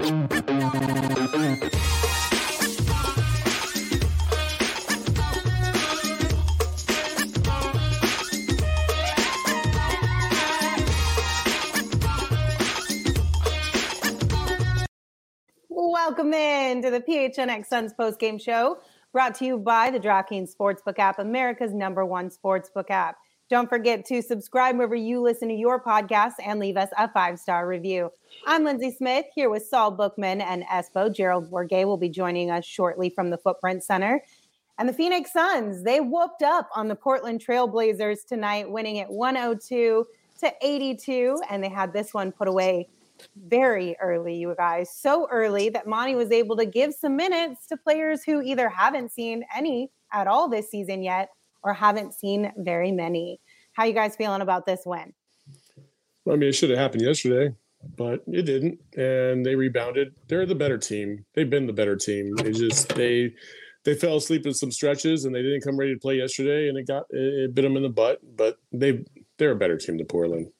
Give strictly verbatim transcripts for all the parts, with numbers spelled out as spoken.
Welcome in to the P H N X Suns postgame show, brought to you by the DraftKings Sportsbook app, America's number one sportsbook app. Don't forget to subscribe wherever you listen to your podcast and leave us a five-star review. I'm Lindsay Smith here with Saul Bookman and Espo. Gerald Bourguet will be joining us shortly from the Footprint Center. And the Phoenix Suns, they whooped up on the Portland Trail Blazers tonight, winning it one oh two to eighty-two, and they had this one put away very early, you guys. So early that Monty was able to give some minutes to players who either haven't seen any at all this season yet or haven't seen very many. How you guys feeling about this win? Well, I mean, it should have happened yesterday, but it didn't. And they rebounded. They're the better team. They've been the better team. They just, they, they fell asleep in some stretches and they didn't come ready to play yesterday, and it got, it, it bit them in the butt, but they, they're a better team than Portland.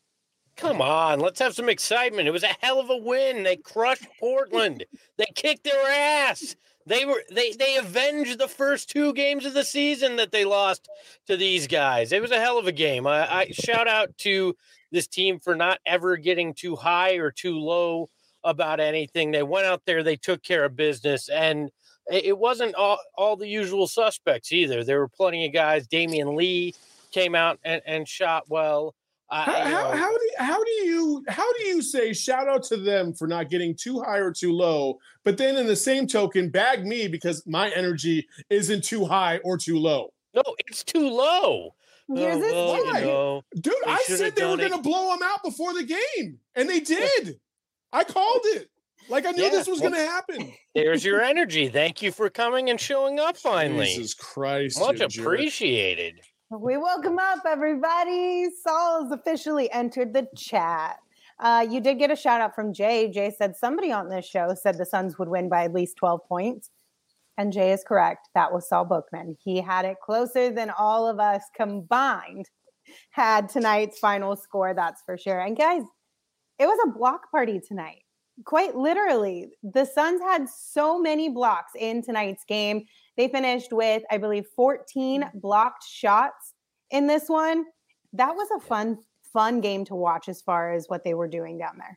Come on, let's have some excitement. It was a hell of a win. They crushed Portland. They kicked their ass. They were they they avenged the first two games of the season that they lost to these guys. It was a hell of a game. I, I shout out to this team for not ever getting too high or too low about anything. They went out there, they took care of business, and it wasn't all, all the usual suspects either. There were plenty of guys. Damian Lee came out and, and shot well. How, how, how do you, how do you how do you say shout out to them for not getting too high or too low, but then in the same token bag me because my energy isn't too high or too low? No, it's too low. Here's this oh, well, you know, dude. I said they were going to blow them out before the game, and they did. I called it. Like I knew yeah, this was well, going to happen. There's your energy. Thank you for coming and showing up finally. Jesus Christ, much appreciated. We welcome up everybody. Saul has officially entered the chat. Uh, you did get a shout out from Jay. Jay said somebody on this show said the Suns would win by at least twelve points. And Jay is correct. That was Saul Bookman. He had it closer than all of us combined had tonight's final score. That's for sure. And guys, it was a block party tonight. Quite literally, the Suns had so many blocks in tonight's game. They finished with, I believe, fourteen blocked shots in this one. That was a fun, fun game to watch as far as what they were doing down there.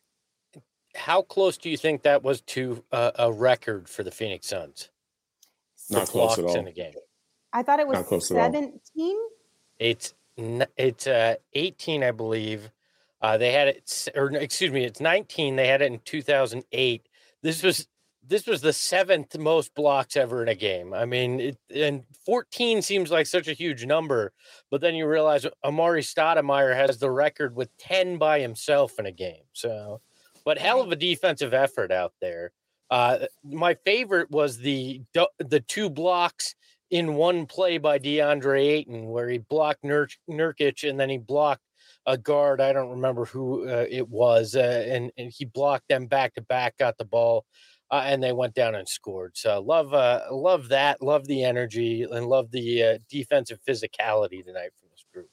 How close do you think that was to a, a record for the Phoenix Suns? Not close at all. In a game. I thought it was seventeen. It's it's uh, eighteen, I believe. Uh, they had it, or excuse me, it's nineteen. They had it in two thousand eight. This was this was the seventh most blocks ever in a game. I mean, it, and fourteen seems like such a huge number, but then you realize Amari Stoudemire has the record with ten by himself in a game. So, but hell of a defensive effort out there. Uh, my favorite was the the two blocks in one play by DeAndre Ayton, where he blocked Nur- Nurkic and then he blocked a guard. I don't remember who uh, it was, uh, and, and he blocked them back to back, got the ball, uh, and they went down and scored. So love, uh, love that, love the energy, and love the uh, defensive physicality tonight from this group.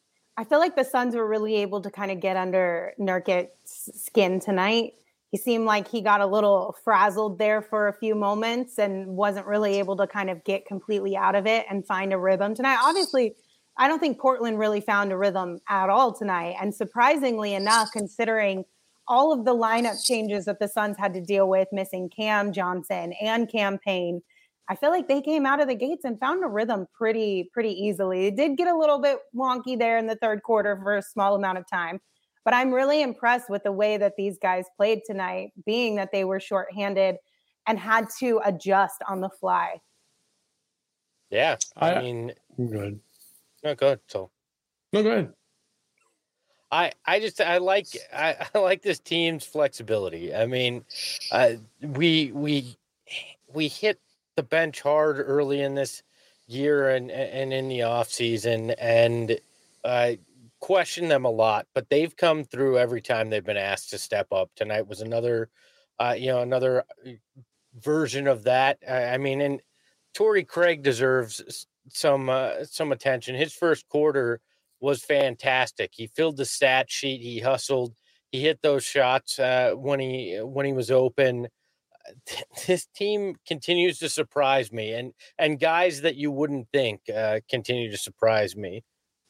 I feel like the Suns were really able to kind of get under Nurkic's skin tonight. He seemed like he got a little frazzled there for a few moments and wasn't really able to kind of get completely out of it and find a rhythm tonight. Obviously, I don't think Portland really found a rhythm at all tonight. And surprisingly enough, considering all of the lineup changes that the Suns had to deal with, missing Cam Johnson and Cam Payne, I feel like they came out of the gates and found a rhythm pretty, pretty easily. It did get a little bit wonky there in the third quarter for a small amount of time. But I'm really impressed with the way that these guys played tonight, being that they were shorthanded and had to adjust on the fly. Yeah, I, I mean, go ahead. No, go ahead. So, no, go ahead. I, I just I like I, I like this team's flexibility. I mean, uh, we we we hit the bench hard early in this year and and in the off season, and uh, question them a lot, but they've come through every time they've been asked to step up. Tonight was another, uh, you know, another version of that. I, I mean, and Torrey Craig deserves some uh, some attention. His first quarter was fantastic. He filled the stat sheet. He hustled. he hit those shots uh, when he when he was open. This team continues to surprise me, and and guys that you wouldn't think uh, continue to surprise me.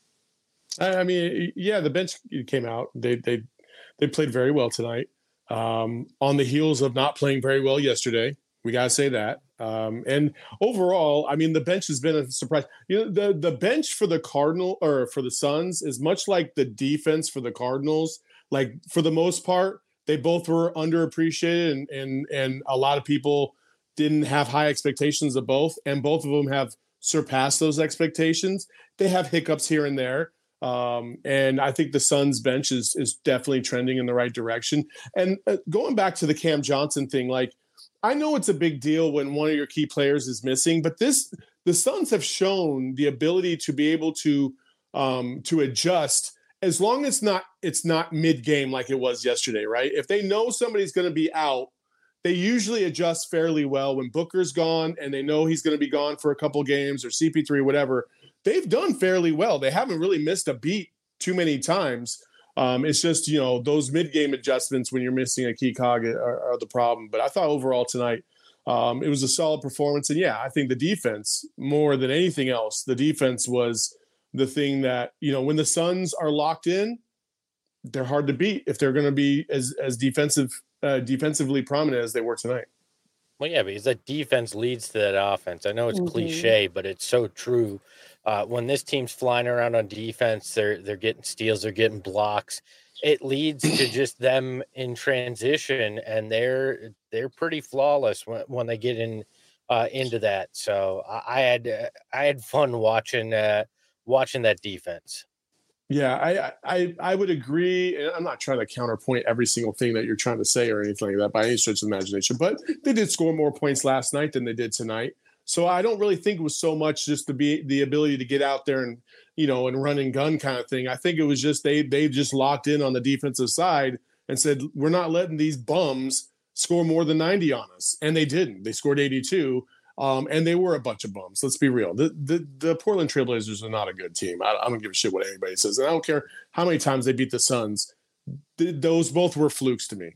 I mean, yeah, the bench came out. They they they played very well tonight. Um, on the heels of not playing very well yesterday, we gotta say that. Um, and overall, I mean, the bench has been a surprise. You know, the the bench for the Cardinal or for the Suns is much like the defense for the Cardinals. Like for the most part, they both were underappreciated, and and and a lot of people didn't have high expectations of both, and both of them have surpassed those expectations. They have hiccups here and there. Um, and I think the Suns bench is is definitely trending in the right direction. And uh, going back to the Cam Johnson thing, like I know it's a big deal when one of your key players is missing, but this the Suns have shown the ability to be able to um, to adjust as long as not it's not mid game like it was yesterday, right? If they know somebody's going to be out, they usually adjust fairly well when Booker's gone and they know he's going to be gone for a couple games or C P three, whatever. They've done fairly well. They haven't really missed a beat too many times. Um, it's just, you know, those mid-game adjustments when you're missing a key cog are, are the problem. But I thought overall tonight um, it was a solid performance. And, yeah, I think the defense, more than anything else, the defense was the thing that, you know, when the Suns are locked in, they're hard to beat if they're going to be as, as defensive, uh, defensively prominent as they were tonight. Well, yeah, because that defense leads to that offense. I know it's mm-hmm. cliche, but it's so true. Uh, when this team's flying around on defense, they're they're getting steals, they're getting blocks. It leads to just them in transition, and they're they're pretty flawless when, when they get in uh, into that. So I, I had uh, I had fun watching uh, watching that defense. Yeah, I, I I would agree. And I'm not trying to counterpoint every single thing that you're trying to say or anything like that by any stretch of the imagination, but they did score more points last night than they did tonight. So I don't really think it was so much just to be the ability to get out there and, you know, and run and gun kind of thing. I think it was just they they just locked in on the defensive side and said, we're not letting these bums score more than ninety on us. And they didn't. They scored eighty-two. Um, and they were a bunch of bums. Let's be real. The the, the Portland Trailblazers are not a good team. I, I don't give a shit what anybody says. And I don't care how many times they beat the Suns. Th- those both were flukes to me.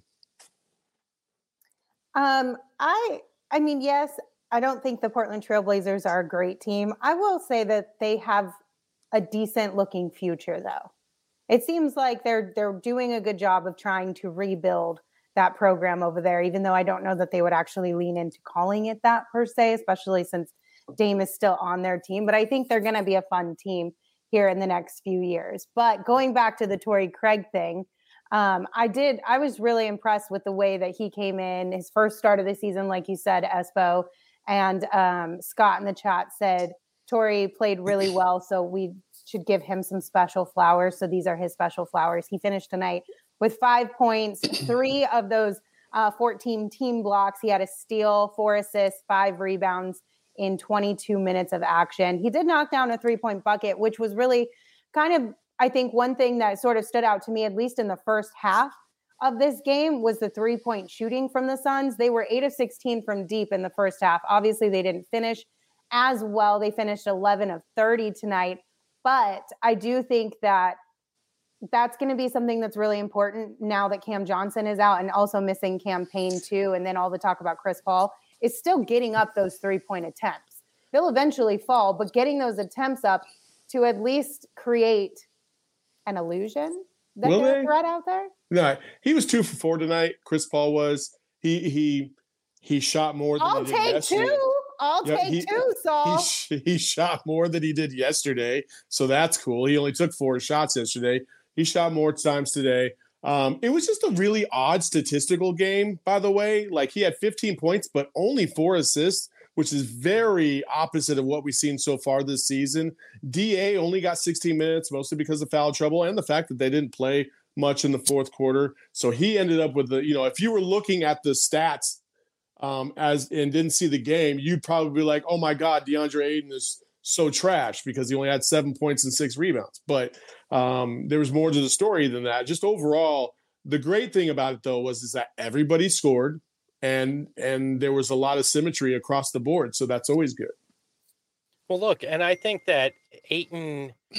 Um, I I mean, yes, I don't think the Portland Trailblazers are a great team. I will say that they have a decent looking future, though. It seems like they're they're doing a good job of trying to rebuild that program over there, even though I don't know that they would actually lean into calling it that per se, especially since Dame is still on their team. But I think they're going to be a fun team here in the next few years. But going back to the Torrey Craig thing, um, I did, I was really impressed with the way that he came in, his first start of the season, like you said, Espo. And um, Scott in the chat said, Torrey played really well, so we should give him some special flowers. So these are his special flowers. He finished tonight with five points, three of those uh, fourteen team blocks. He had a steal, four assists, five rebounds in twenty-two minutes of action. He did knock down a three-point bucket, which was really kind of, I think, one thing that sort of stood out to me, at least in the first half of this game, was the three-point shooting from the Suns. They were eight of sixteen from deep in the first half. Obviously, they didn't finish as well. They finished eleven of thirty tonight. But I do think that that's going to be something that's really important now that Cam Johnson is out and also missing Cam Payne too. And then all the talk about Chris Paul is still getting up those three-point attempts. They'll eventually fall, but getting those attempts up to at least create an illusion that Will they're they? a threat out there. No, he was two for four tonight. Chris Paul was. He he he shot more than I'll he did take yesterday. two. I'll Yeah, take he- two, Saul. He, sh- he shot more than he did yesterday, so that's cool. He only took four shots yesterday. He shot more times today. Um, it was just a really odd statistical game, by the way. Like, he had fifteen points, but only four assists, which is very opposite of what we've seen so far this season. D A only got sixteen minutes, mostly because of foul trouble and the fact that they didn't play much in the fourth quarter. So he ended up with the, you know, if you were looking at the stats um, as and didn't see the game, you'd probably be like, oh my God, DeAndre Ayton is so trash because he only had seven points and six rebounds. But um, there was more to the story than that. Just overall, the great thing about it, though, was is that everybody scored and and there was a lot of symmetry across the board. So that's always good. Well, look, and I think that Ayton,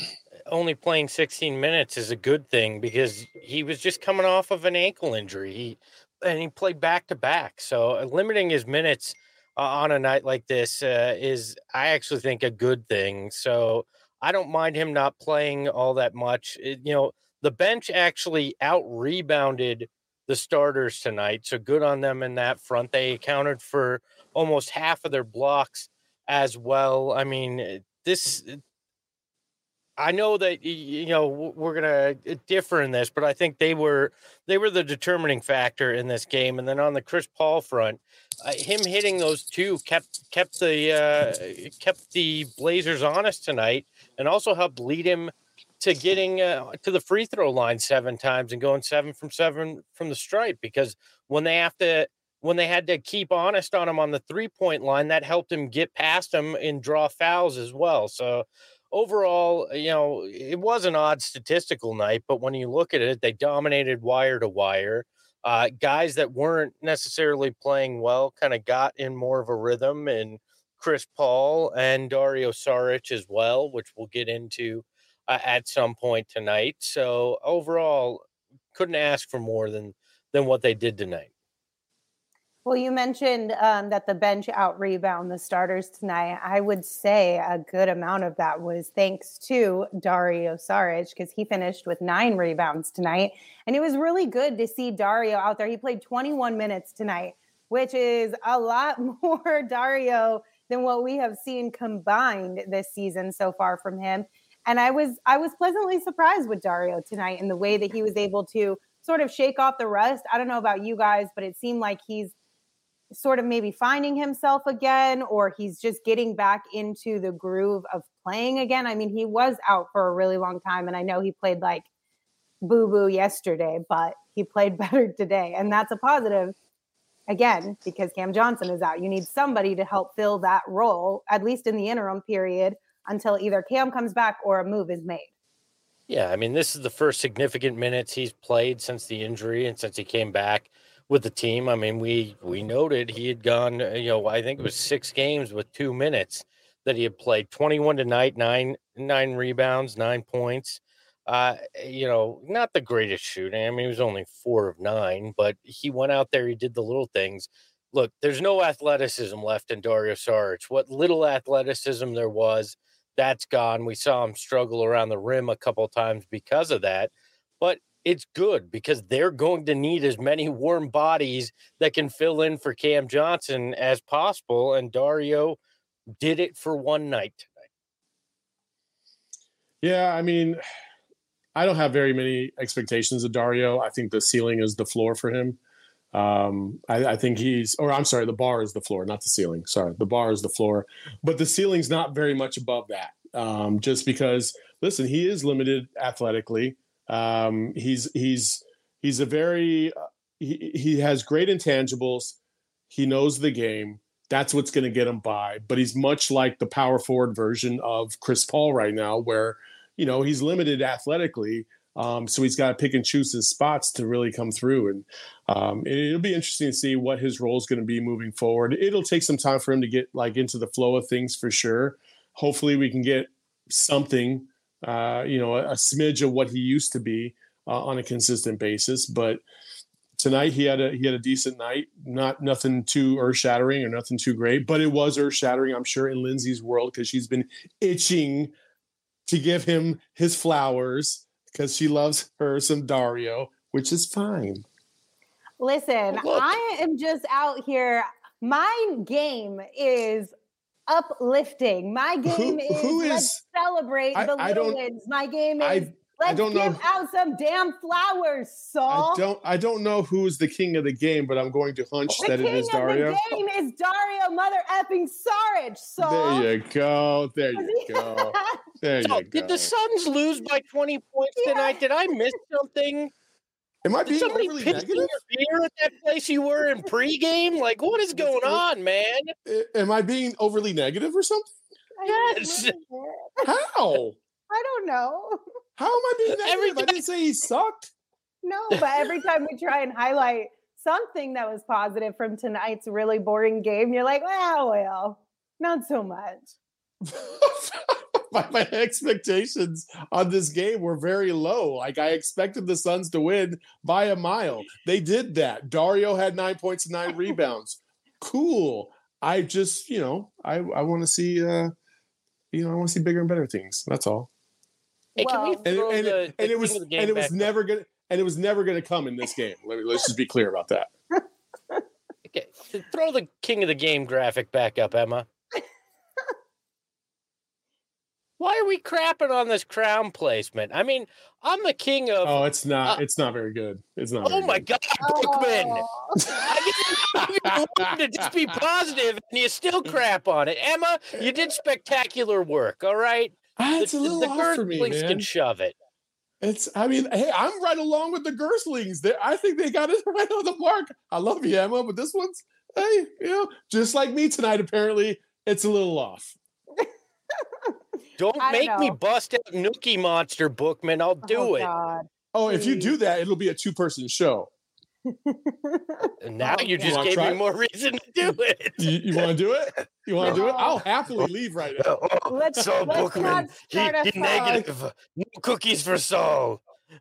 only playing sixteen minutes is a good thing because he was just coming off of an ankle injury. He and he played back to back. So uh, limiting his minutes uh, on a night like this uh, is, I actually think, a good thing. So I don't mind him not playing all that much. It, you know, the bench actually out rebounded the starters tonight. So good on them in that front. They accounted for almost half of their blocks as well. I mean, this, I know that, you know, we're going to differ in this, but I think they were, they were the determining factor in this game. And then on the Chris Paul front, uh, him hitting those two kept, kept the, uh, kept the Blazers honest tonight, and also helped lead him to getting uh, to the free throw line seven times and going seven from seven from the stripe, because when they have to, when they had to keep honest on him on the three point line, that helped him get past him and draw fouls as well. So overall, you know, it was an odd statistical night, but when you look at it, they dominated wire to wire. Uh, guys that weren't necessarily playing well kind of got in more of a rhythm, and Chris Paul and Dario Saric as well, which we'll get into uh, at some point tonight. So overall, couldn't ask for more than than what they did tonight. Well, you mentioned um, that the bench out rebound the starters tonight. I would say a good amount of that was thanks to Dario Saric, because he finished with nine rebounds tonight. And it was really good to see Dario out there. He played twenty-one minutes tonight, which is a lot more Dario than what we have seen combined this season so far from him. And I was I was pleasantly surprised with Dario tonight in the way that he was able to sort of shake off the rust. I don't know about you guys, but it seemed like he's sort of maybe finding himself again, or he's just getting back into the groove of playing again. I mean, he was out for a really long time, and I know he played like boo-boo yesterday, but he played better today, and that's a positive, again, because Cam Johnson is out. You need somebody to help fill that role, at least in the interim period, until either Cam comes back or a move is made. Yeah, I mean, this is the first significant minutes he's played since the injury and since he came back with the team. I mean, we we noted he had gone, you know, I think it was six games with two minutes that he had played. twenty-one tonight, nine nine rebounds, nine points. Uh, you know, not the greatest shooting. I mean, he was only four of nine, but he went out there, he did the little things. Look, there's no athleticism left in Dario Saric. What little athleticism there was, that's gone. We saw him struggle around the rim a couple of times because of that. But it's good because they're going to need as many warm bodies that can fill in for Cam Johnson as possible. And Dario did it for one night tonight. Yeah, I mean, I don't have very many expectations of Dario. I think the ceiling is the floor for him. Um, I, I think he's, or I'm sorry, the bar is the floor, not the ceiling. Sorry, the bar is the floor, but the ceiling's not very much above that. Um, just because, listen, he is limited athletically. Um, he's he's he's a very uh, he, he has great intangibles. He knows the game. That's what's going to get him by. But he's much like the power forward version of Chris Paul right now, where you know he's limited athletically. Um, so he's got to pick and choose his spots to really come through. And um, it, it'll be interesting to see what his role is going to be moving forward. It'll take some time for him to get like into the flow of things for sure. Hopefully we can get something. Uh, you know, a, a smidge of what he used to be uh, on a consistent basis. But tonight he had a he had a decent night. Not nothing too earth shattering or nothing too great, but it was earth shattering, I'm sure, in Lindsay's world, because she's been itching to give him his flowers because she loves her some Dario, which is fine. Listen, Look. I am just out here. My game is uplifting. My game Who- is, who let's is- celebrate I- the I little don't- wins. My game is I- let's don't give know. out some damn flowers, Saul. I don't I don't know who's the king of the game, but I'm going to hunch the that king it is of Dario. the game is Dario mother effing Saric, Saul. There you go. There you go. There So, you go. did the Suns lose by twenty points Yeah. tonight? Did I miss something? Am I Did being somebody overly piss in negative? your beer at that place you were in pregame? Like, what is going on, man? I- Am I being overly negative or something? I Yes. don't know. How? I don't know. How am I being negative? Every I didn't say he sucked. No, but every time we try and highlight something that was positive from tonight's really boring game, you're like, well, well, not so much. my, my expectations on this game were very low. Like I expected the Suns to win by a mile. They did that. Dario had nine points and nine rebounds. Cool. I just, you know, I, I want to see, uh, you know, I want to see bigger and better things. That's all. Hey, can we Well, And, throw and, the, it, and the it was king of the and game it was back up? never gonna and it was never gonna come in this game. Let me let's just be clear about that. Okay, throw the king of the game graphic back up, Emma. Why are we crapping on this crown placement? I mean, I'm the king of. Oh, it's not. Uh, it's not very good. It's not. oh very my good. God, Bookman! Oh. I didn't want to just be positive, and you still crap on it. Emma, you did spectacular work. All right, Ah, it's the, a little the off for me, Girthlings man. can shove it. It's. I mean, hey, I'm right along with the Gerstlings. They, I think they got it right on the mark. I love you, Emma, but this one's, hey, you know, just like me tonight. Apparently, it's a little off. Don't I make don't me know. bust out Nookie Monster, Bookman. I'll do Oh, it. God. Oh, if you Please. do that, it'll be a two-person show. And now Oh, you just God. gave Try me it? more reason to do it. You, you want to do it? You want to do it? No. I'll happily leave right now. Let's- Saul let's Bookman, not he, start a he fight. negative. No cookies for Saul.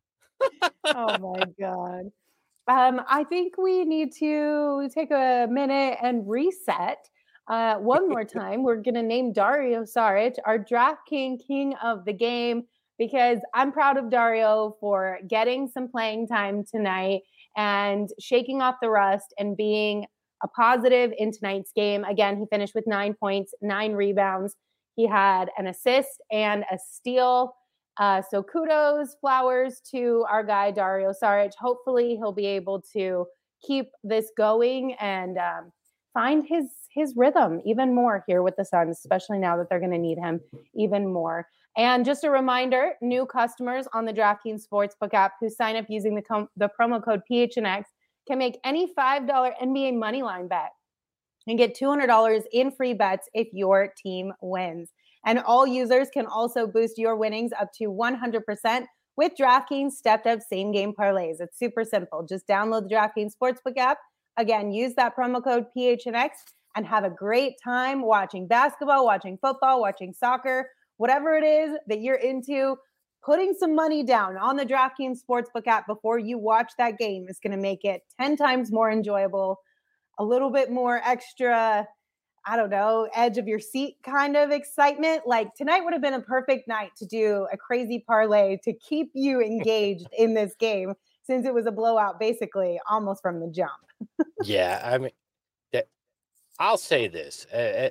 Oh my God. Um, I think we need to take a minute and reset. Uh, one more time, we're going to name Dario Saric our DraftKings King of the Game because I'm proud of Dario for getting some playing time tonight and shaking off the rust and being a positive in tonight's game. Again, he finished with nine points, nine rebounds. He had an assist and a steal. Uh, so kudos, flowers to our guy, Dario Saric. Hopefully he'll be able to keep this going and um, find his his rhythm even more here with the Suns, especially now that they're going to need him even more. And just a reminder, new customers on the DraftKings Sportsbook app who sign up using the, com- the promo code P H N X can make any five dollars N B A moneyline bet and get two hundred dollars in free bets if your team wins. And all users can also boost your winnings up to one hundred percent with DraftKings stepped-up same-game parlays. It's super simple. Just download the DraftKings Sportsbook app. Again, use that promo code P H N X and have a great time watching basketball, watching football, watching soccer, whatever it is that you're into. Putting some money down on the DraftKings Sportsbook app before you watch that game is going to make it ten times more enjoyable, a little bit more extra, I don't know, edge of your seat kind of excitement. Like tonight would have been a perfect night to do a crazy parlay to keep you engaged in this game since it was a blowout basically almost from the jump. Yeah, I mean, that, I'll say this: uh,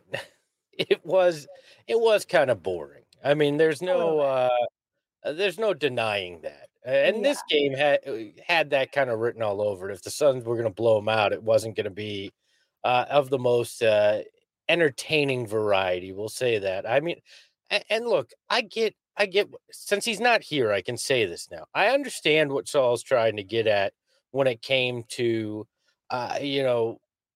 it was it was kind of boring. I mean, there's no uh, there's no denying that. And Yeah. this game had had that kind of written all over it. If the Suns were going to blow them out, it wasn't going to be uh, of the most uh, entertaining variety. We'll say that. I mean, and, and look, I get, I get. Since he's not here, I can say this now. I understand what Saul's trying to get at when it came to, uh, you know,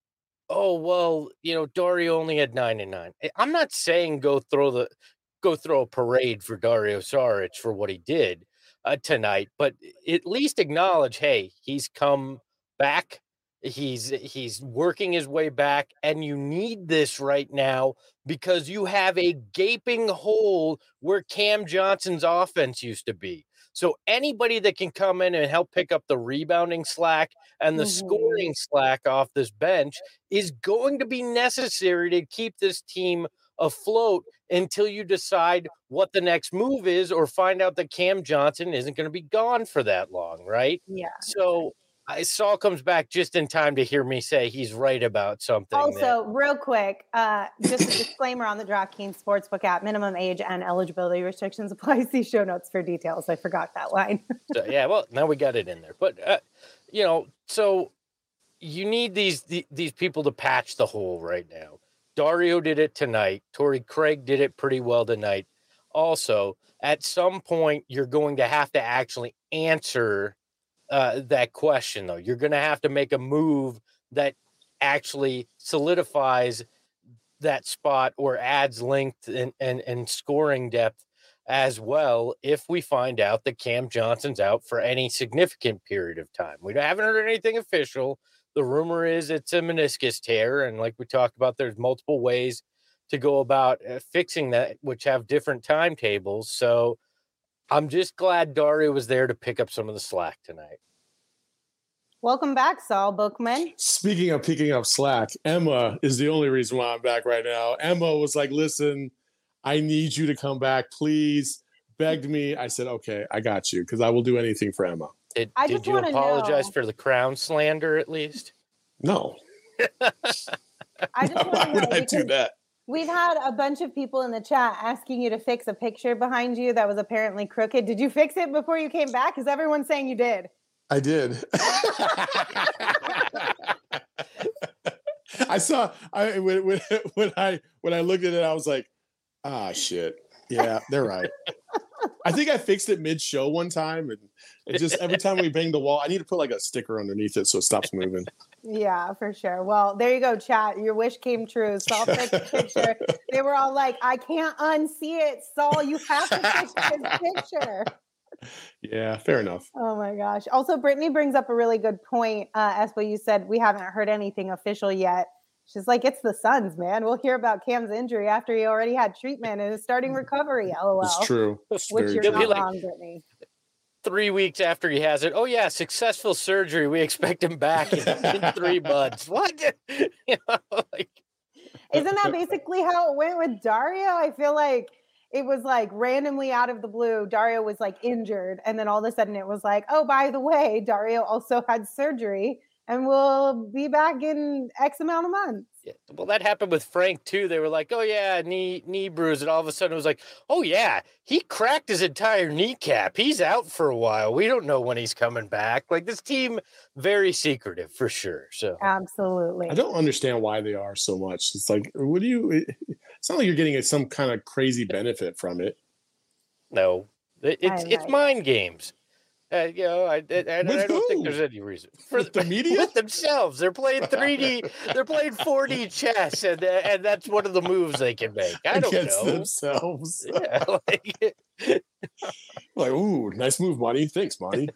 oh well, you know, Dario only had nine and nine. I'm not saying go throw the go throw a parade for Dario Saric for what he did uh, tonight, but at least acknowledge, hey, he's come back. He's he's working his way back, and you need this right now because you have a gaping hole where Cam Johnson's offense used to be. So anybody that can come in and help pick up the rebounding slack and the Mhm. scoring slack off this bench is going to be necessary to keep this team afloat until you decide what the next move is or find out that Cam Johnson isn't going to be gone for that long, right? Yeah. So I Saul comes back just in time to hear me say he's right about something. Also, that, real quick, uh, just a disclaimer on the DraftKings Sportsbook app: minimum age and eligibility restrictions apply. See show notes for details. I forgot that line. so, yeah, well, now we got it in there. But uh, you know, so you need these the, these people to patch the hole right now. Dario did it tonight. Torrey Craig did it pretty well tonight. Also, at some point, you're going to have to actually answer uh, that question, though. You're going to have to make a move that actually solidifies that spot or adds length and, and, and scoring depth as well if we find out that Cam Johnson's out for any significant period of time. We haven't heard anything official. The rumor is it's a meniscus tear, and like we talked about, there's multiple ways to go about uh, fixing that, which have different timetables. So I'm just glad Dario was there to pick up some of the slack tonight. Welcome back, Saul Bookman. Speaking of picking up slack, Emma is the only reason why I'm back right now. Emma was like, listen, I need you to come back, please. Begged me. I said, okay, I got you, because I will do anything for Emma. Did, I did just you wanna apologize know- for the crown slander at least? No. I just Why want to would know I do because that? we've had a bunch of people in the chat asking you to fix a picture behind you that was apparently crooked. Did you fix it before you came back? Because everyone's saying you did. I did. I saw I when, when when I when I looked at it, I was like, ah shit. Yeah, they're right. I think I fixed it mid-show one time, and it just every time we bang the wall, I need to put like a sticker underneath it so it stops moving. Yeah, for sure. Well, there you go, chat. Your wish came true. Saul fixed the picture. They were all like, I can't unsee it. Saul, you have to fix this picture. Yeah, fair enough. Oh my gosh. Also, Brittany brings up a really good point. Uh, as what you said, we haven't heard anything official yet. She's like, it's the Suns, man. We'll hear about Cam's injury after he already had treatment and is starting recovery. LOL. It's true. It's Which very you're true. not like- wrong, Brittany. Three weeks after he has it, oh yeah, successful surgery. We expect him back in, in three months. What? You know, like, Isn't that basically how it went with Dario? I feel like it was like randomly out of the blue, Dario was like injured. And then all of a sudden it was like, oh, by the way, Dario also had surgery and will be back in X amount of months. yeah. Well, that happened with Frank too. They were like, "Oh yeah, knee knee bruise," and all of a sudden it was like, "Oh yeah, he cracked his entire kneecap. He's out for a while. We don't know when he's coming back." Like this team, very secretive for sure. So Absolutely. I don't understand why they are so much. It's like, what do you? It's not like you're getting some kind of crazy benefit from it. no, it, it's I it's like- mind games. Uh, you know, I, I, I, I With don't think who? there's any reason for With the media? with themselves. They're playing three D. They're playing four D chess, and uh, and that's one of the moves they can make. I don't Against know. themselves. Yeah, like, Like, ooh, nice move, Monty. Thanks, Monty.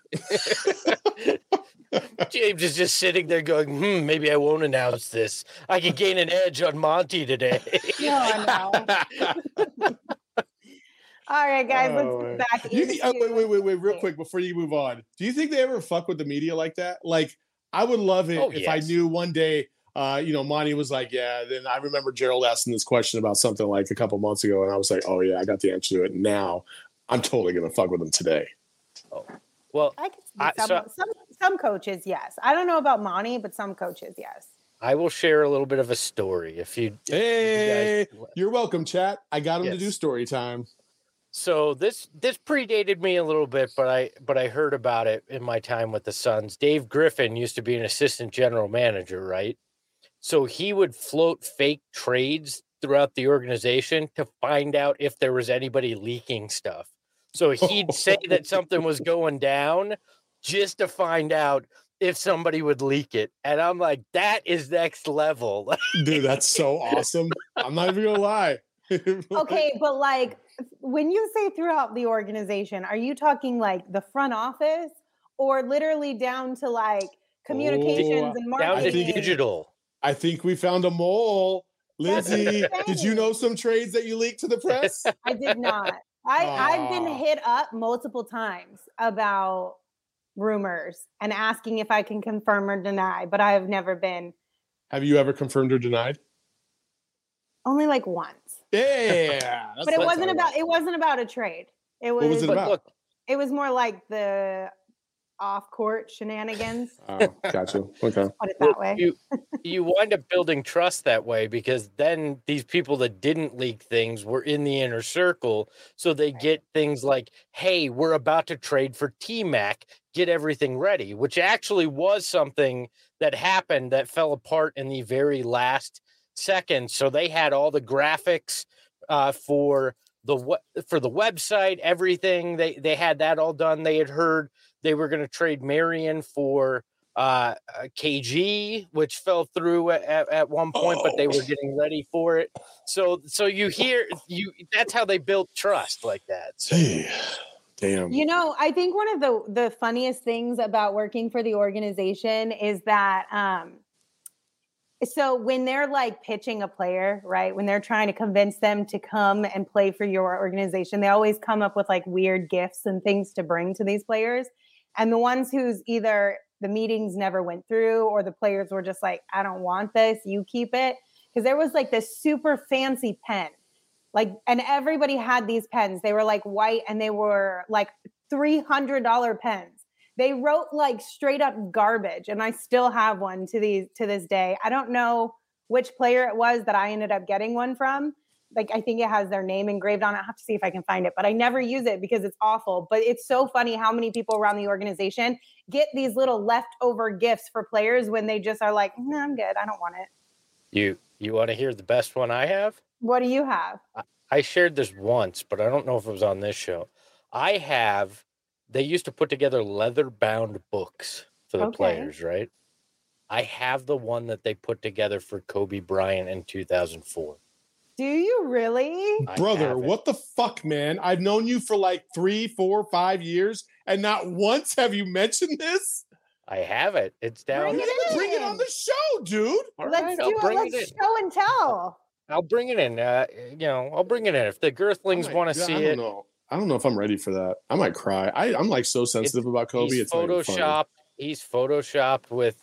James is just sitting there going, "Hmm, maybe I won't announce this. I could gain an edge on Monty today." No, I know. All right, guys, Oh, let's man. get back You into think, oh, wait, wait, wait, wait, real quick before you move on. Do you think they ever fuck with the media like that? Like, I would love it Oh, if I yes. knew one day, uh, you know, Monty was like, yeah. Then I remember Gerald asking this question about something like a couple months ago, and I was like, oh yeah, I got the answer to it. Now I'm totally gonna fuck with them today. Well, I can see I- some, so- some some coaches, yes. I don't know about Monty, but some coaches, yes. I will share a little bit of a story if you. if you Hey, guys- you're welcome, chat. I got him to Yes. do story time. So this this predated me a little bit, but I but I heard about it in my time with the Suns. Dave Griffin used to be an assistant general manager, right? So he would float fake trades throughout the organization to find out if there was anybody leaking stuff. So he'd say that something was going down just to find out if somebody would leak it. And I'm like, that is next level. Dude, that's so awesome. I'm not even gonna lie. Okay, but like when you say throughout the organization, are you talking like the front office or literally down to like communications Oh, and Down to marketing? digital. I think we found a mole. That's Lindsay, insane. did you know some trades that you leaked to the press? I did not. I, I've been Aw. hit up multiple times about rumors and asking if I can confirm or deny, but I have never been, Have you ever confirmed or denied? only like once. Yeah. that's But it what I'm wasn't talking about it wasn't about a trade. It was, What was it But about? look, it was more like the off-court shenanigans. Oh, gotcha. Okay. Put it Well, that way. You you wind up building trust that way because then these people that didn't leak things were in the inner circle, so they get things like, "Hey, we're about to trade for T-Mac. Get everything ready," which actually was something that happened that fell apart in the very last second. So they had all the graphics uh, for the we- for the website, everything. They they had that all done. They had heard they were going to trade Marion for uh, uh, K G, which fell through at, at, at one point, but they were Oh. getting ready for it. So, so you hear you. That's how they built trust like that. So, Damn. You know, I think one of the the funniest things about working for the organization is that um So when they're like pitching a player, right? When they're trying to convince them to come and play for your organization, they always come up with like weird gifts and things to bring to these players. And the ones who's either the meetings never went through or the players were just like, I don't want this, you keep it. Because there was like this super fancy pen. Like, and everybody had these pens. They were like white and they were like three hundred dollars pens. They wrote like straight up garbage, and I still have one to these to this day. I don't know which player it was that I ended up getting one from. Like, I think it has their name engraved on it. I have to see if I can find it, but I never use it because it's awful. But it's so funny how many people around the organization get these little leftover gifts for players when they just are like, no, I'm good. I don't want it. You you want to hear the best one I have? What do you have? I, I shared this once, but I don't know if it was on this show. I have. They used to put together leather-bound books for the Okay. players, right? I have the one that they put together for Kobe Bryant in two thousand four. Do you really? I Brother, have it. what the fuck, man? I've known you for like three, four, five years, and not once have you mentioned this. I have it. It's down. Bring it in. Bring it on the show, dude. All Let's right, do I'll it. bring Let's it in. show and tell. I'll bring it in. Uh, you know, I'll bring it in if the Girthlings I might- want to yeah, see I it. don't know. I don't know if I'm ready for that. I might cry. I, I'm like so sensitive about Kobe. He's It's not even funny. photoshopped. He's photoshopped with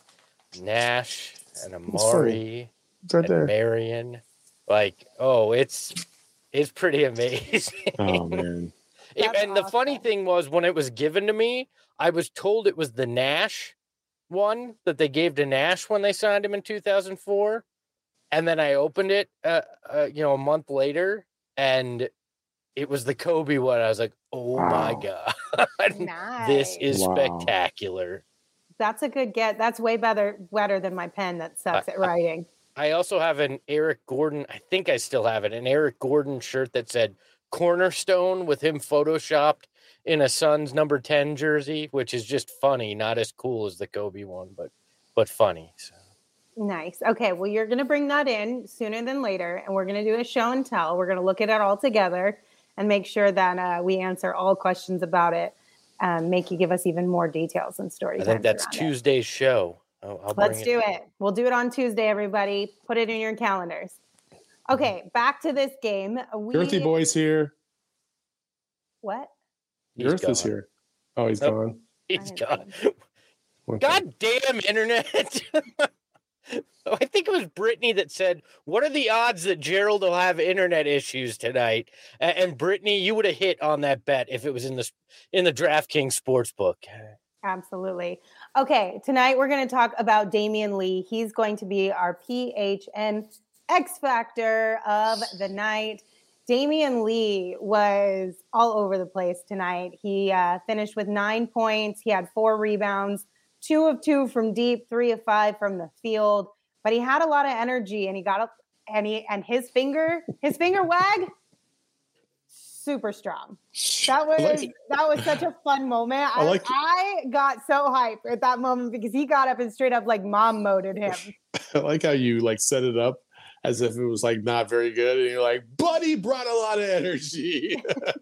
Nash and Amari It's right and there. Marion. Like, oh, it's it's pretty amazing. Oh man. It- That's and the funny awesome. thing was, when it was given to me, I was told it was the Nash one that they gave to Nash when they signed him in two thousand four. And then I opened it, uh, uh, you know, a month later, and it was the Kobe one. I was like, oh my Wow. God, Nice. this is Wow. spectacular. That's a good get. That's way better better than my pen that sucks I- at writing. I also have an Eric Gordon, I think I still have it, an Eric Gordon shirt that said Cornerstone with him photoshopped in a Suns number ten jersey, which is just funny, not as cool as the Kobe one, but but funny. So. Nice. Okay, well, you're going to bring that in sooner than later, and we're going to do a show and tell. We're going to look at it all together and make sure that uh, we answer all questions about it, um, make you give us even more details and story I think times that's around it. Tuesday's show. I'll, I'll Let's bring do it. We'll do it on Tuesday, everybody. Put it in your calendars. Okay, back to this game. We, Girthy boy's here. What? He's Girth is gone. here. Oh, he's Nope. gone. He's I gone. Okay. God damn internet. I think it was Brittany that said, what are the odds that Gerald will have internet issues tonight? A- And Brittany, you would have hit on that bet if it was in the in the DraftKings Sportsbook. Absolutely. Okay, tonight we're going to talk about Damian Lee. He's going to be our P H N X Factor of the night. Damian Lee was all over the place tonight. He uh, finished with nine points. He had four rebounds, two of two from deep, three of five from the field. But he had a lot of energy, and he got up, and he and his finger, his finger wag, super strong. That was I like, that was such a fun moment. I, I like- I got so hyped at that moment because he got up and straight up like mom moded him. I like how you like set it up as if it was like not very good, and you're like, "Buddy brought a lot of energy."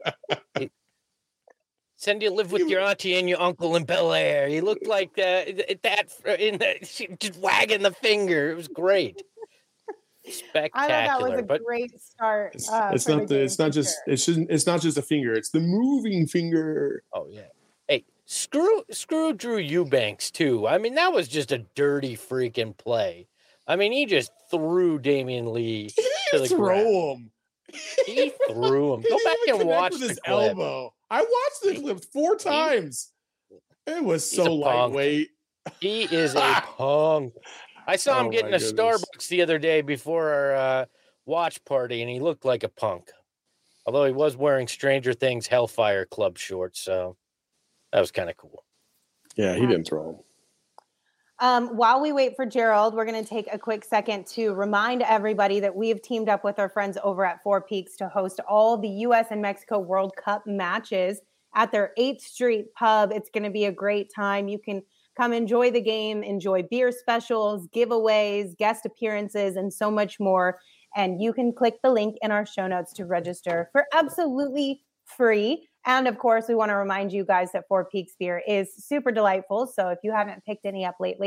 Cindy lived with your auntie and your uncle in Bel Air. He looked like uh, that in the, just wagging the finger. It was great. Spectacular. I thought that was a but great start. It's, Uh, it's for not the. game It's not for just. sure. It shouldn't. It's not just a finger. It's the moving finger. oh yeah. Hey, screw screw Drew Eubanks too. I mean, that was just a dirty freaking play. I mean, he just threw Damian Lee He to didn't the ground. throw him. He threw him. He Go didn't back even and connect watch with the his clip. elbow. I watched the clip four times. It was He's a so punk. lightweight. He is a punk. I saw him Oh, getting my a goodness. Starbucks the other day before our uh, watch party, and he looked like a punk. Although he was wearing Stranger Things Hellfire Club shorts, so that was kind of cool. Yeah, he didn't throw him. Um, while we wait for Gerald, we're going to take a quick second to remind everybody that we have teamed up with our friends over at Four Peaks to host all the U S and Mexico World Cup matches at their eighth Street pub. It's going to be a great time. You can come enjoy the game, enjoy beer specials, giveaways, guest appearances, and so much more. And you can click the link in our show notes to register for absolutely free. And of course, we want to remind you guys that Four Peaks beer is super delightful. So if you haven't picked any up lately,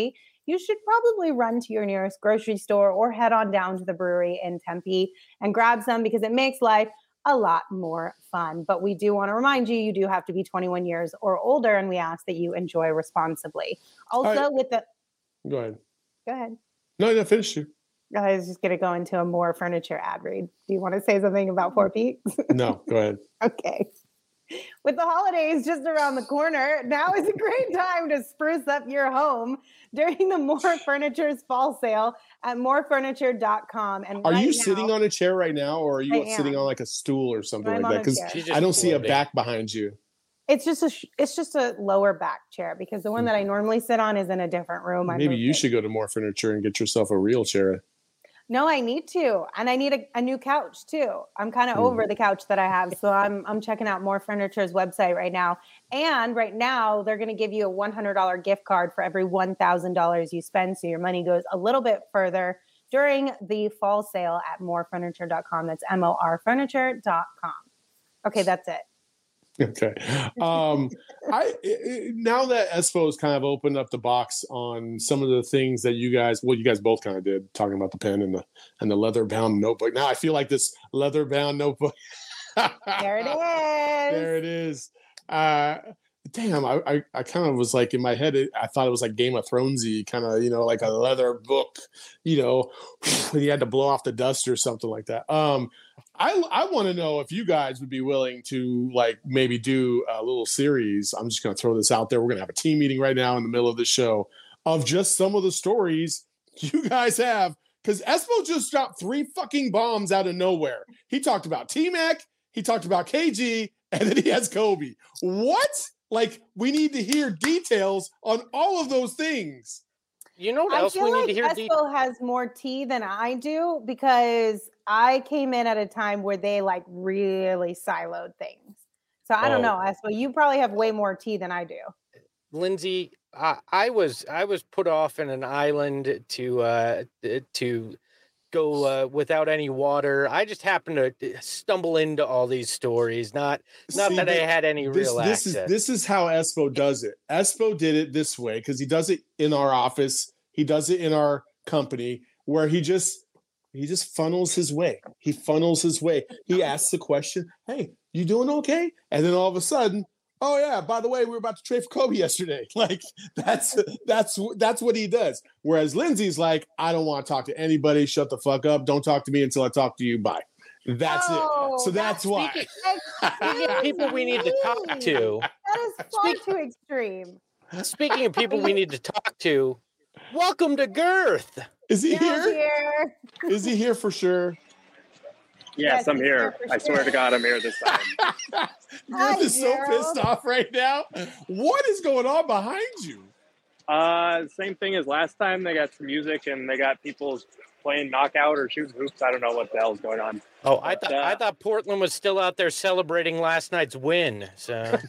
you should probably run to your nearest grocery store or head on down to the brewery in Tempe and grab some because it makes life a lot more fun. But we do want to remind you, you do have to be twenty-one years or older, and we ask that you enjoy responsibly. Also, right. with the go ahead, go ahead. No, no, finish you. I was just going to go into a more furniture ad read. Do you want to say something about Four Peaks? No, go ahead. Okay. With the holidays just around the corner, now is a great time to spruce up your home during the More Furniture's fall sale at more furniture dot com. And are right you now, sitting on a chair right now, or are you I sitting am. on like a stool or something I'm like that? Because I don't see a back behind you. It's just a it's just a lower back chair because the one that I normally sit on is in a different room. Maybe you it. should go to More Furniture and get yourself a real chair. No, I need to, and I need a, a new couch too. I'm kind of mm. over the couch that I have, so I'm I'm checking out More Furniture's website right now. And right now, they're going to give you a one hundred dollars gift card for every one thousand dollars you spend, so your money goes a little bit further during the fall sale at more furniture dot com. That's M O R furniture dot com. Okay, that's it. Okay. Um, I it, now that Espo has kind of opened up the box on some of the things that you guys, well, you guys both kind of did, talking about the pen and the and the leather bound notebook. Now I feel like this leather bound notebook. There it is. There it is. Uh, damn, I, I, I kind of was like in my head, it, I thought it was like Game of Thronesy, kind of, you know, like a leather book, you know, when you had to blow off the dust or something like that. Um, I I want to know if you guys would be willing to like maybe do a little series. I'm just going to throw this out there. We're going to have a team meeting right now in the middle of the show of just some of the stories you guys have. Because Espo just dropped three fucking bombs out of nowhere. He talked about T-Mac, he talked about K G, and then he has Kobe. What? Like, we need to hear details on all of those things. You know what I else feel we like need to hear? Espo has more tea than I do because I came in at a time where they like really siloed things. So I don't Oh. know, Espo. You probably have way more tea than I do. Lindsay, I, I was I was put off in an island to uh, to go uh, without any water. I just happened to stumble into all these stories. Not not See, that I had any this, real this access. is this is how Espo does it. Espo did it this way because he does it in our office. He does it in our company where he just he just funnels his way. He funnels his way. He asks the question, "Hey, you doing okay?" And then all of a sudden, "Oh yeah, by the way, we were about to trade for Kobe yesterday." Like that's that's that's what he does. Whereas Lindsay's like, "I don't want to talk to anybody. Shut the fuck up. Don't talk to me until I talk to you. Bye." That's Oh, it. So that's, that's why. Speaking of people we need to talk to. That is far Speak- too extreme. Speaking of people we need to talk to, welcome to Girth. Is he Dale's here? here. Is he here for sure? Yes, Yes, I'm he's here. here for I swear sure. to God, I'm here this time. Hi, Girth is so Gerald. pissed off right now. What is going on behind you? Uh, same thing as last time. They got some music and they got people playing knockout or shooting hoops. I don't know what the hell's going on. Oh, I But, thought uh, I thought Portland was still out there celebrating last night's win. So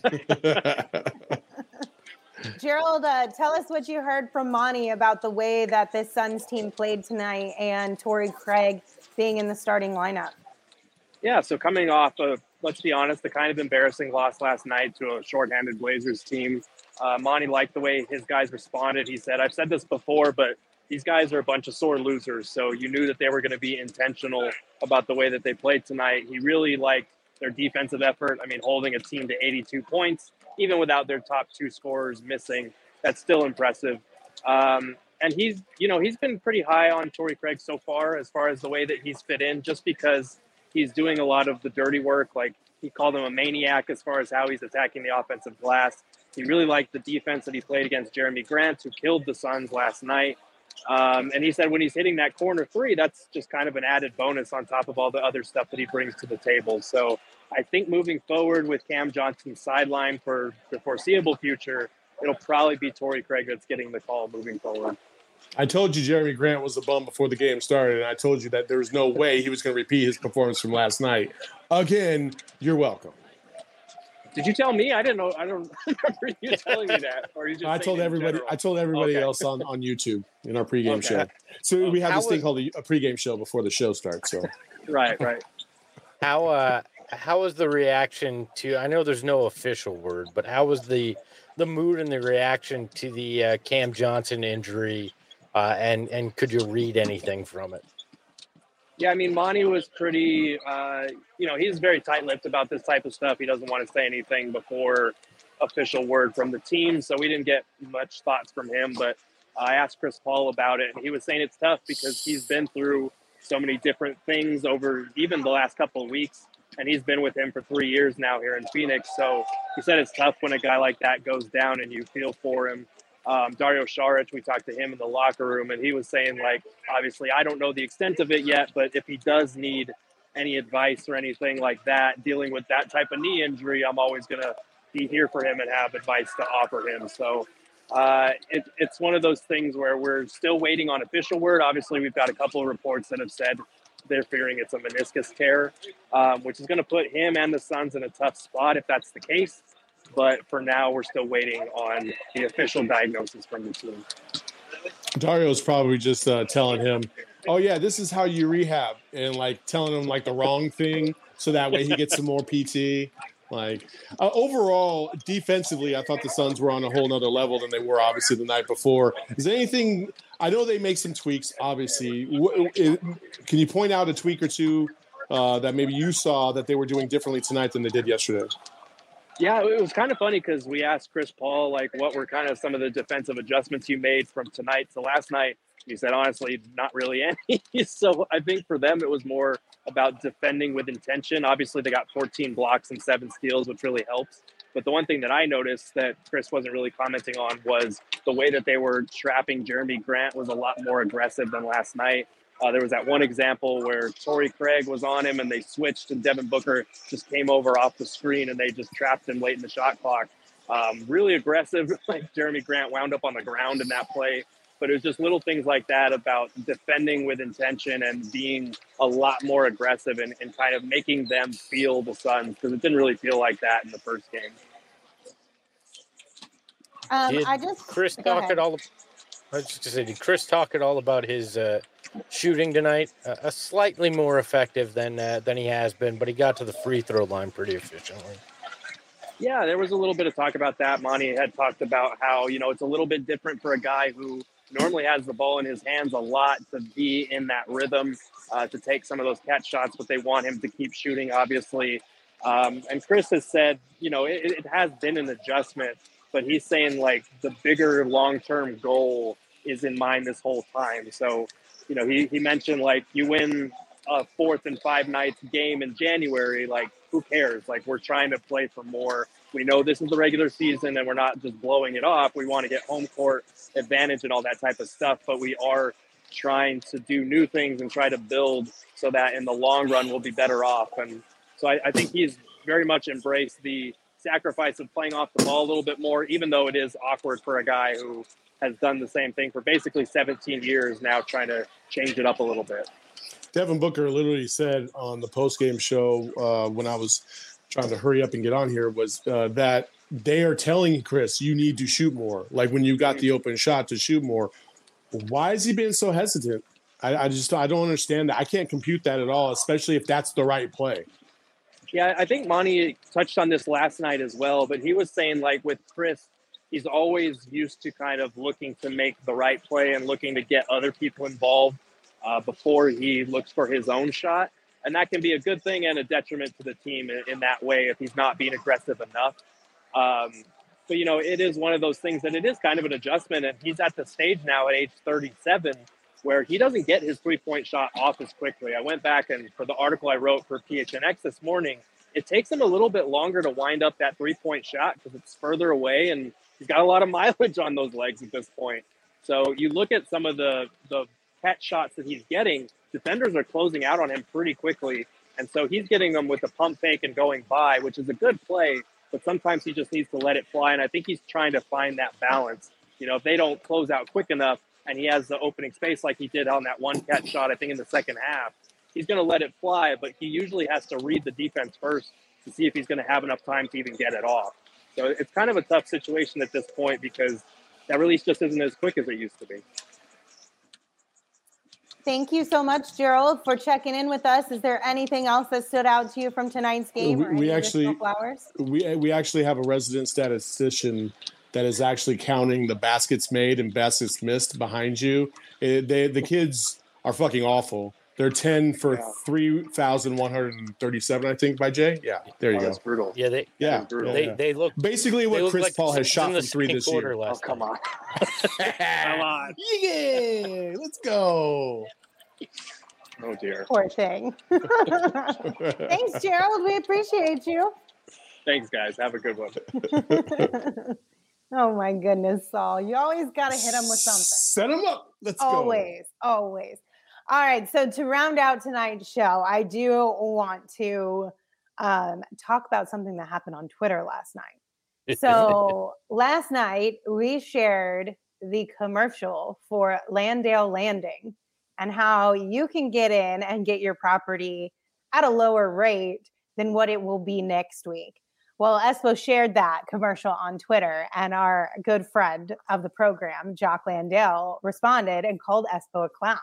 Gerald, uh, tell us what you heard from Monty about the way that this Suns team played tonight and Torrey Craig being in the starting lineup. Yeah, so coming off of, let's be honest, the kind of embarrassing loss last night to a shorthanded Blazers team, uh, Monty liked the way his guys responded. He said, I've said this before, but these guys are a bunch of sore losers. So you knew that they were going to be intentional about the way that they played tonight. He really liked their defensive effort. I mean, holding a team to eighty-two points, even without their top two scorers missing, that's still impressive. Um, and he's, you know, he's been pretty high on Torrey Craig so far, as far as the way that he's fit in, just because he's doing a lot of the dirty work. Like, he called him a maniac as far as how he's attacking the offensive glass. He really liked the defense that he played against Jeremy Grant, who killed the Suns last night. Um, and he said when he's hitting that corner three, that's just kind of an added bonus on top of all the other stuff that he brings to the table. So I think moving forward with Cam Johnson sideline for the foreseeable future, it'll probably be Torrey Craig that's getting the call moving forward. I told you Jeremy Grant was a bum before the game started, and I told you that there was no way he was going to repeat his performance from last night. Again, you're welcome. Did you tell me? I didn't know. I don't remember you telling me that. Or you just I told saying in everybody. general? I told everybody Okay. else on, on YouTube in our pregame Okay. show. So we have How this thing was- called a, a pregame show before the show starts. So Right, right. how uh how was the reaction to? I know there's no official word, but how was the the mood and the reaction to the uh, Cam Johnson injury Uh, and and could you read anything from it? Yeah, I mean, Monty was pretty, uh, you know, he's very tight-lipped about this type of stuff. He doesn't want to say anything before official word from the team, so we didn't get much thoughts from him. But I asked Chris Paul about it, and he was saying it's tough because he's been through so many different things over even the last couple of weeks, and he's been with him for three years now here in Phoenix. So he said it's tough when a guy like that goes down and you feel for him. Um, Dario Saric, we talked to him in the locker room, and he was saying, like, obviously, I don't know the extent of it yet, but if he does need any advice or anything like that, dealing with that type of knee injury, I'm always going to be here for him and have advice to offer him. So uh, it, it's one of those things where we're still waiting on official word. Obviously, we've got a couple of reports that have said they're fearing it's a meniscus tear, um, which is going to put him and the Suns in a tough spot if that's the case. But for now, we're still waiting on the official diagnosis from the team. Dario's probably just uh, telling him, oh, yeah, this is how you rehab, and, like, telling him, like, the wrong thing so that way he gets some more P T. Like, uh, overall, defensively, I thought the Suns were on a whole nother level than they were, obviously, the night before. Is there anything – I know they make some tweaks, obviously. W- it, can you point out a tweak or two uh, that maybe you saw that they were doing differently tonight than they did yesterday? Yeah, it was kind of funny because we asked Chris Paul, like, what were kind of some of the defensive adjustments you made from tonight to last night? He said, honestly, not really any. So I think for them, it was more about defending with intention. Obviously, they got fourteen blocks and seven steals, which really helps. But the one thing that I noticed that Chris wasn't really commenting on was the way that they were trapping Jeremy Grant was a lot more aggressive than last night. Uh, there was that one example where Torrey Craig was on him and they switched and Devin Booker just came over off the screen and they just trapped him late in the shot clock. Um, really aggressive. Like Jeremy Grant wound up on the ground in that play. But it was just little things like that about defending with intention and being a lot more aggressive and, and kind of making them feel the Suns, because it didn't really feel like that in the first game. Um, Did I just Chris go talk ahead. at all? I was just gonna say, did Chris talk at all about his uh, shooting tonight? Uh, a slightly more effective than uh, than he has been, but he got to the free throw line pretty efficiently. Yeah, there was a little bit of talk about that. Monty had talked about how, you know, it's a little bit different for a guy who normally has the ball in his hands a lot to be in that rhythm, uh, to take some of those catch shots, but they want him to keep shooting, obviously. Um, and Chris has said, you know, it, it has been an adjustment, but he's saying, like, the bigger long-term goal is in mind this whole time. So, you know, he, he mentioned, like, you win a fourth and five nights game in January, like, who cares? Like, we're trying to play for more. We know this is the regular season and we're not just blowing it off. We want to get home court advantage and all that type of stuff, but we are trying to do new things and try to build so that in the long run we'll be better off. And so I, I think he's very much embraced the sacrifice of playing off the ball a little bit more, even though it is awkward for a guy who has done the same thing for basically seventeen years now, trying to change it up a little bit. Devin Booker literally said on the postgame show uh, when I was trying to hurry up and get on here was uh, that they are telling Chris, you need to shoot more. Like when you got the open shot to shoot more. Why is he being so hesitant? I, I just I don't understand that. I can't compute that at all, especially if that's the right play. Yeah, I think Monty touched on this last night as well, but he was saying, like, with Chris, he's always used to kind of looking to make the right play and looking to get other people involved uh, before he looks for his own shot. And that can be a good thing and a detriment to the team in, in that way if he's not being aggressive enough. Um, but, you know, it is one of those things that it is kind of an adjustment. And he's at the stage now at age thirty-seven where he doesn't get his three-point shot off as quickly. I went back and for the article I wrote for P H N X this morning, it takes him a little bit longer to wind up that three-point shot because it's further away and he's got a lot of mileage on those legs at this point. So you look at some of the, the catch shots that he's getting, defenders are closing out on him pretty quickly. And so he's getting them with the pump fake and going by, which is a good play, but sometimes he just needs to let it fly. And I think he's trying to find that balance. You know, if they don't close out quick enough and he has the opening space like he did on that one catch shot, I think in the second half, he's going to let it fly, but he usually has to read the defense first to see if he's going to have enough time to even get it off. So it's kind of a tough situation at this point because that release just isn't as quick as it used to be. Thank you so much, Gerald, for checking in with us. Is there anything else that stood out to you from tonight's game? We, or any we actually flowers? we we actually have a resident statistician that is actually counting the baskets made and baskets missed behind you. It, they, the kids are fucking awful. They're ten for Yeah. three thousand one hundred thirty-seven, I think, by Jay. Yeah, there you Oh, go. that's brutal. Yeah, they Yeah, brutal. they yeah. they look Basically they what look Chris like Paul the has Suns shot in the from three second this quarter year. Oh, last come night. on. Come on. Yeah, let's go. Oh, dear. Poor thing. Thanks, Gerald. We appreciate you. Thanks, guys. Have a good one. Oh my goodness, Saul. You always got to hit him with something. Set him up. Let's Always, always. All right. So to round out tonight's show, I do want to um, talk about something that happened on Twitter last night. So last night we shared the commercial for Landale Landing and how you can get in and get your property at a lower rate than what it will be next week. Well, Espo shared that commercial on Twitter, and our good friend of the program, Jock Landale, responded and called Espo a clown.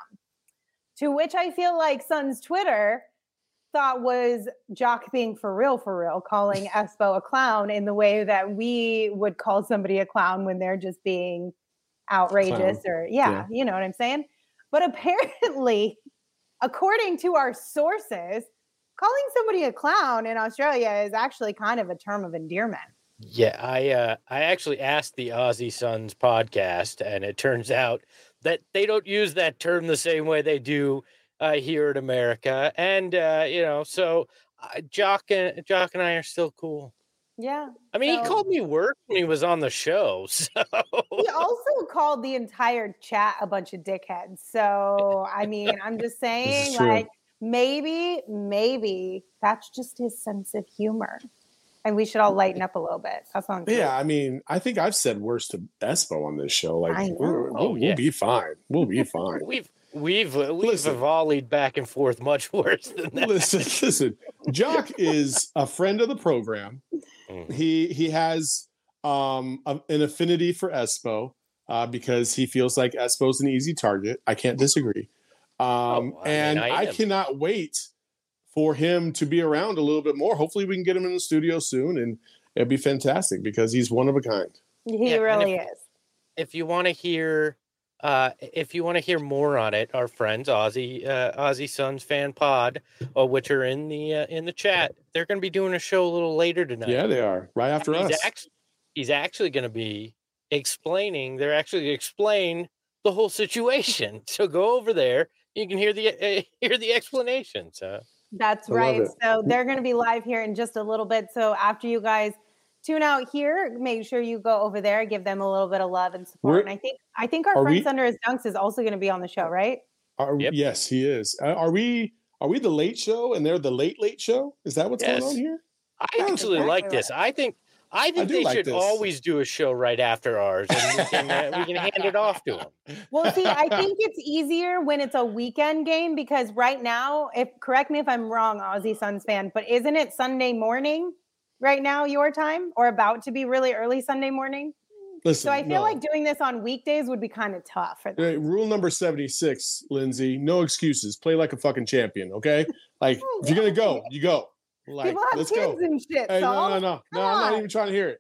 To which I feel like Sun's Twitter thought was Jock being for real, for real, calling Espo a clown in the way that we would call somebody a clown when they're just being outrageous Clown. or, yeah, Yeah. you know what I'm saying? But apparently, according to our sources, calling somebody a clown in Australia is actually kind of a term of endearment. Yeah, I uh, I actually asked the Aussie Sons podcast, and it turns out that they don't use that term the same way they do uh, here in America. And uh, you know, so uh, Jock and Jock and I are still cool. Yeah. I mean, so- he called me work when he was on the show. So He also called the entire chat a bunch of dickheads. So, I mean, I'm just saying, true. like, maybe, maybe that's just his sense of humor. And we should all lighten up a little bit. That's what I'm saying. Yeah, I mean, I think I've said worse to Espo on this show. Like, I know. we're- Oh, we'll, yeah. we'll be fine. We'll be fine. we've we've uh, we've Listen. volleyed back and forth much worse than that. listen, listen. Jock is a friend of the program. Mhm. He he has um a- an affinity for Espo uh, because he feels like Espo's an easy target. I can't disagree. Um, Oh, I mean, and I I, am. cannot wait for him to be around a little bit more. Hopefully, we can get him in the studio soon, and it'd be fantastic because he's one of a kind. He Yeah, and really if- is. If you want to hear, uh, if you want to hear more on it, our friends Aussie uh, Aussie Sons Fan Pod, uh, which are in the uh, in the chat, they're going to be doing a show a little later tonight. Yeah, they are right after he's us. Actually, he's actually going to be explaining. They're actually going to explain the whole situation. So go over there. You can hear the uh, hear the explanation. So That's I love right. it. So they're going to be live here in just a little bit. So after you guys tune out here, make sure you go over there, give them a little bit of love and support. We're- and I think I think our are friend we- Thunder His Dunks is also going to be on the show, right? Are, Yep. Yes, he is. Uh, Are we? Are we the late show, and they're the late late show? Is that what's Yes. going on here? I That's actually exactly like this. I think I think do they like should this. always do a show right after ours, and we can uh, we can hand it off to them. Well, see, I think it's easier when it's a weekend game because right now, if correct me if I'm wrong, Aussie Suns fan, but isn't it Sunday morning right now your time or about to be really early Sunday morning? Listen, So I feel no. like doing this on weekdays would be kind of tough for them. Hey, rule number seventy-six, Lindsay, no excuses. Play like a fucking champion, okay? Like, if you're going to go, you go. Like, People have let's kids go. and shit. Hey, no, Saul. no, no. No, Come I'm not on. even trying to hear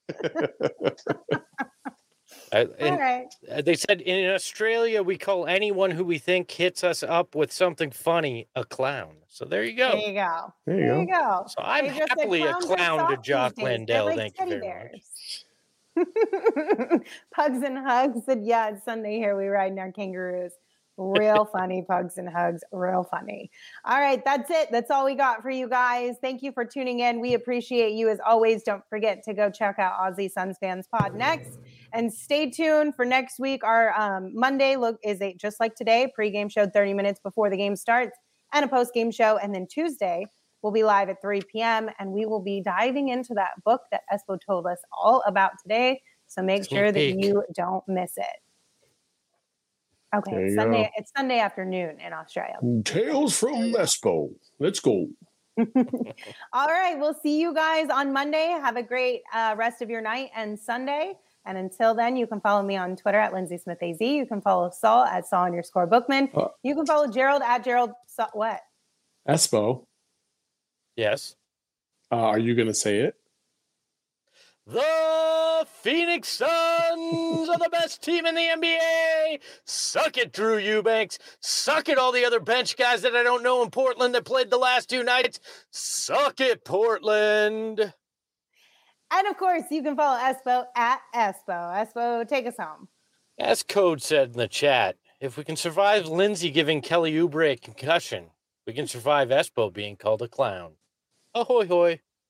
it. Uh, All and right. uh, they said in Australia we call anyone who we think hits us up with something funny a clown. So there you There go. you go. There There you you go. go. So I'm They just said happily a clowns are clown to soft these Jock days. They're Landell. like Thank you teddy very much. bears. Pugs and Hugs said, yeah, it's Sunday here. We riding our kangaroos. Real funny, Pugs and Hugs. Real funny. All right, that's it. That's all we got for you guys. Thank you for tuning in. We appreciate you as always. Don't forget to go check out Aussie Suns Fans Pod next. And stay tuned for next week. Our um, Monday look is a just like today, pregame show thirty minutes before the game starts, and a post-game show. And then Tuesday, we'll be live at three p.m. and we will be diving into that book that Espo told us all about today. So make Sneak sure that peek. you don't miss it. Okay, There it's you Sunday. go. It's Sunday afternoon in Australia. Tales from Espo. Let's go. All right, we'll see you guys on Monday. Have a great uh, rest of your night and Sunday. And until then, you can follow me on Twitter at Lindsay Smith A Z. You can follow Saul at Saul underscore Bookman. Uh, You can follow Gerald at Gerald. Sa- what? Espo, Yes. uh, are you going to say it? The Phoenix Suns are the best team in the N B A. Suck it, Drew Eubanks. Suck it, all the other bench guys that I don't know in Portland that played the last two nights. Suck it, Portland. And of course, you can follow Espo at Espo. Espo, take us home. As Code said in the chat, if we can survive Lindsay giving Kelly Oubre a concussion, we can survive Espo being called a clown. Ahoy hoy.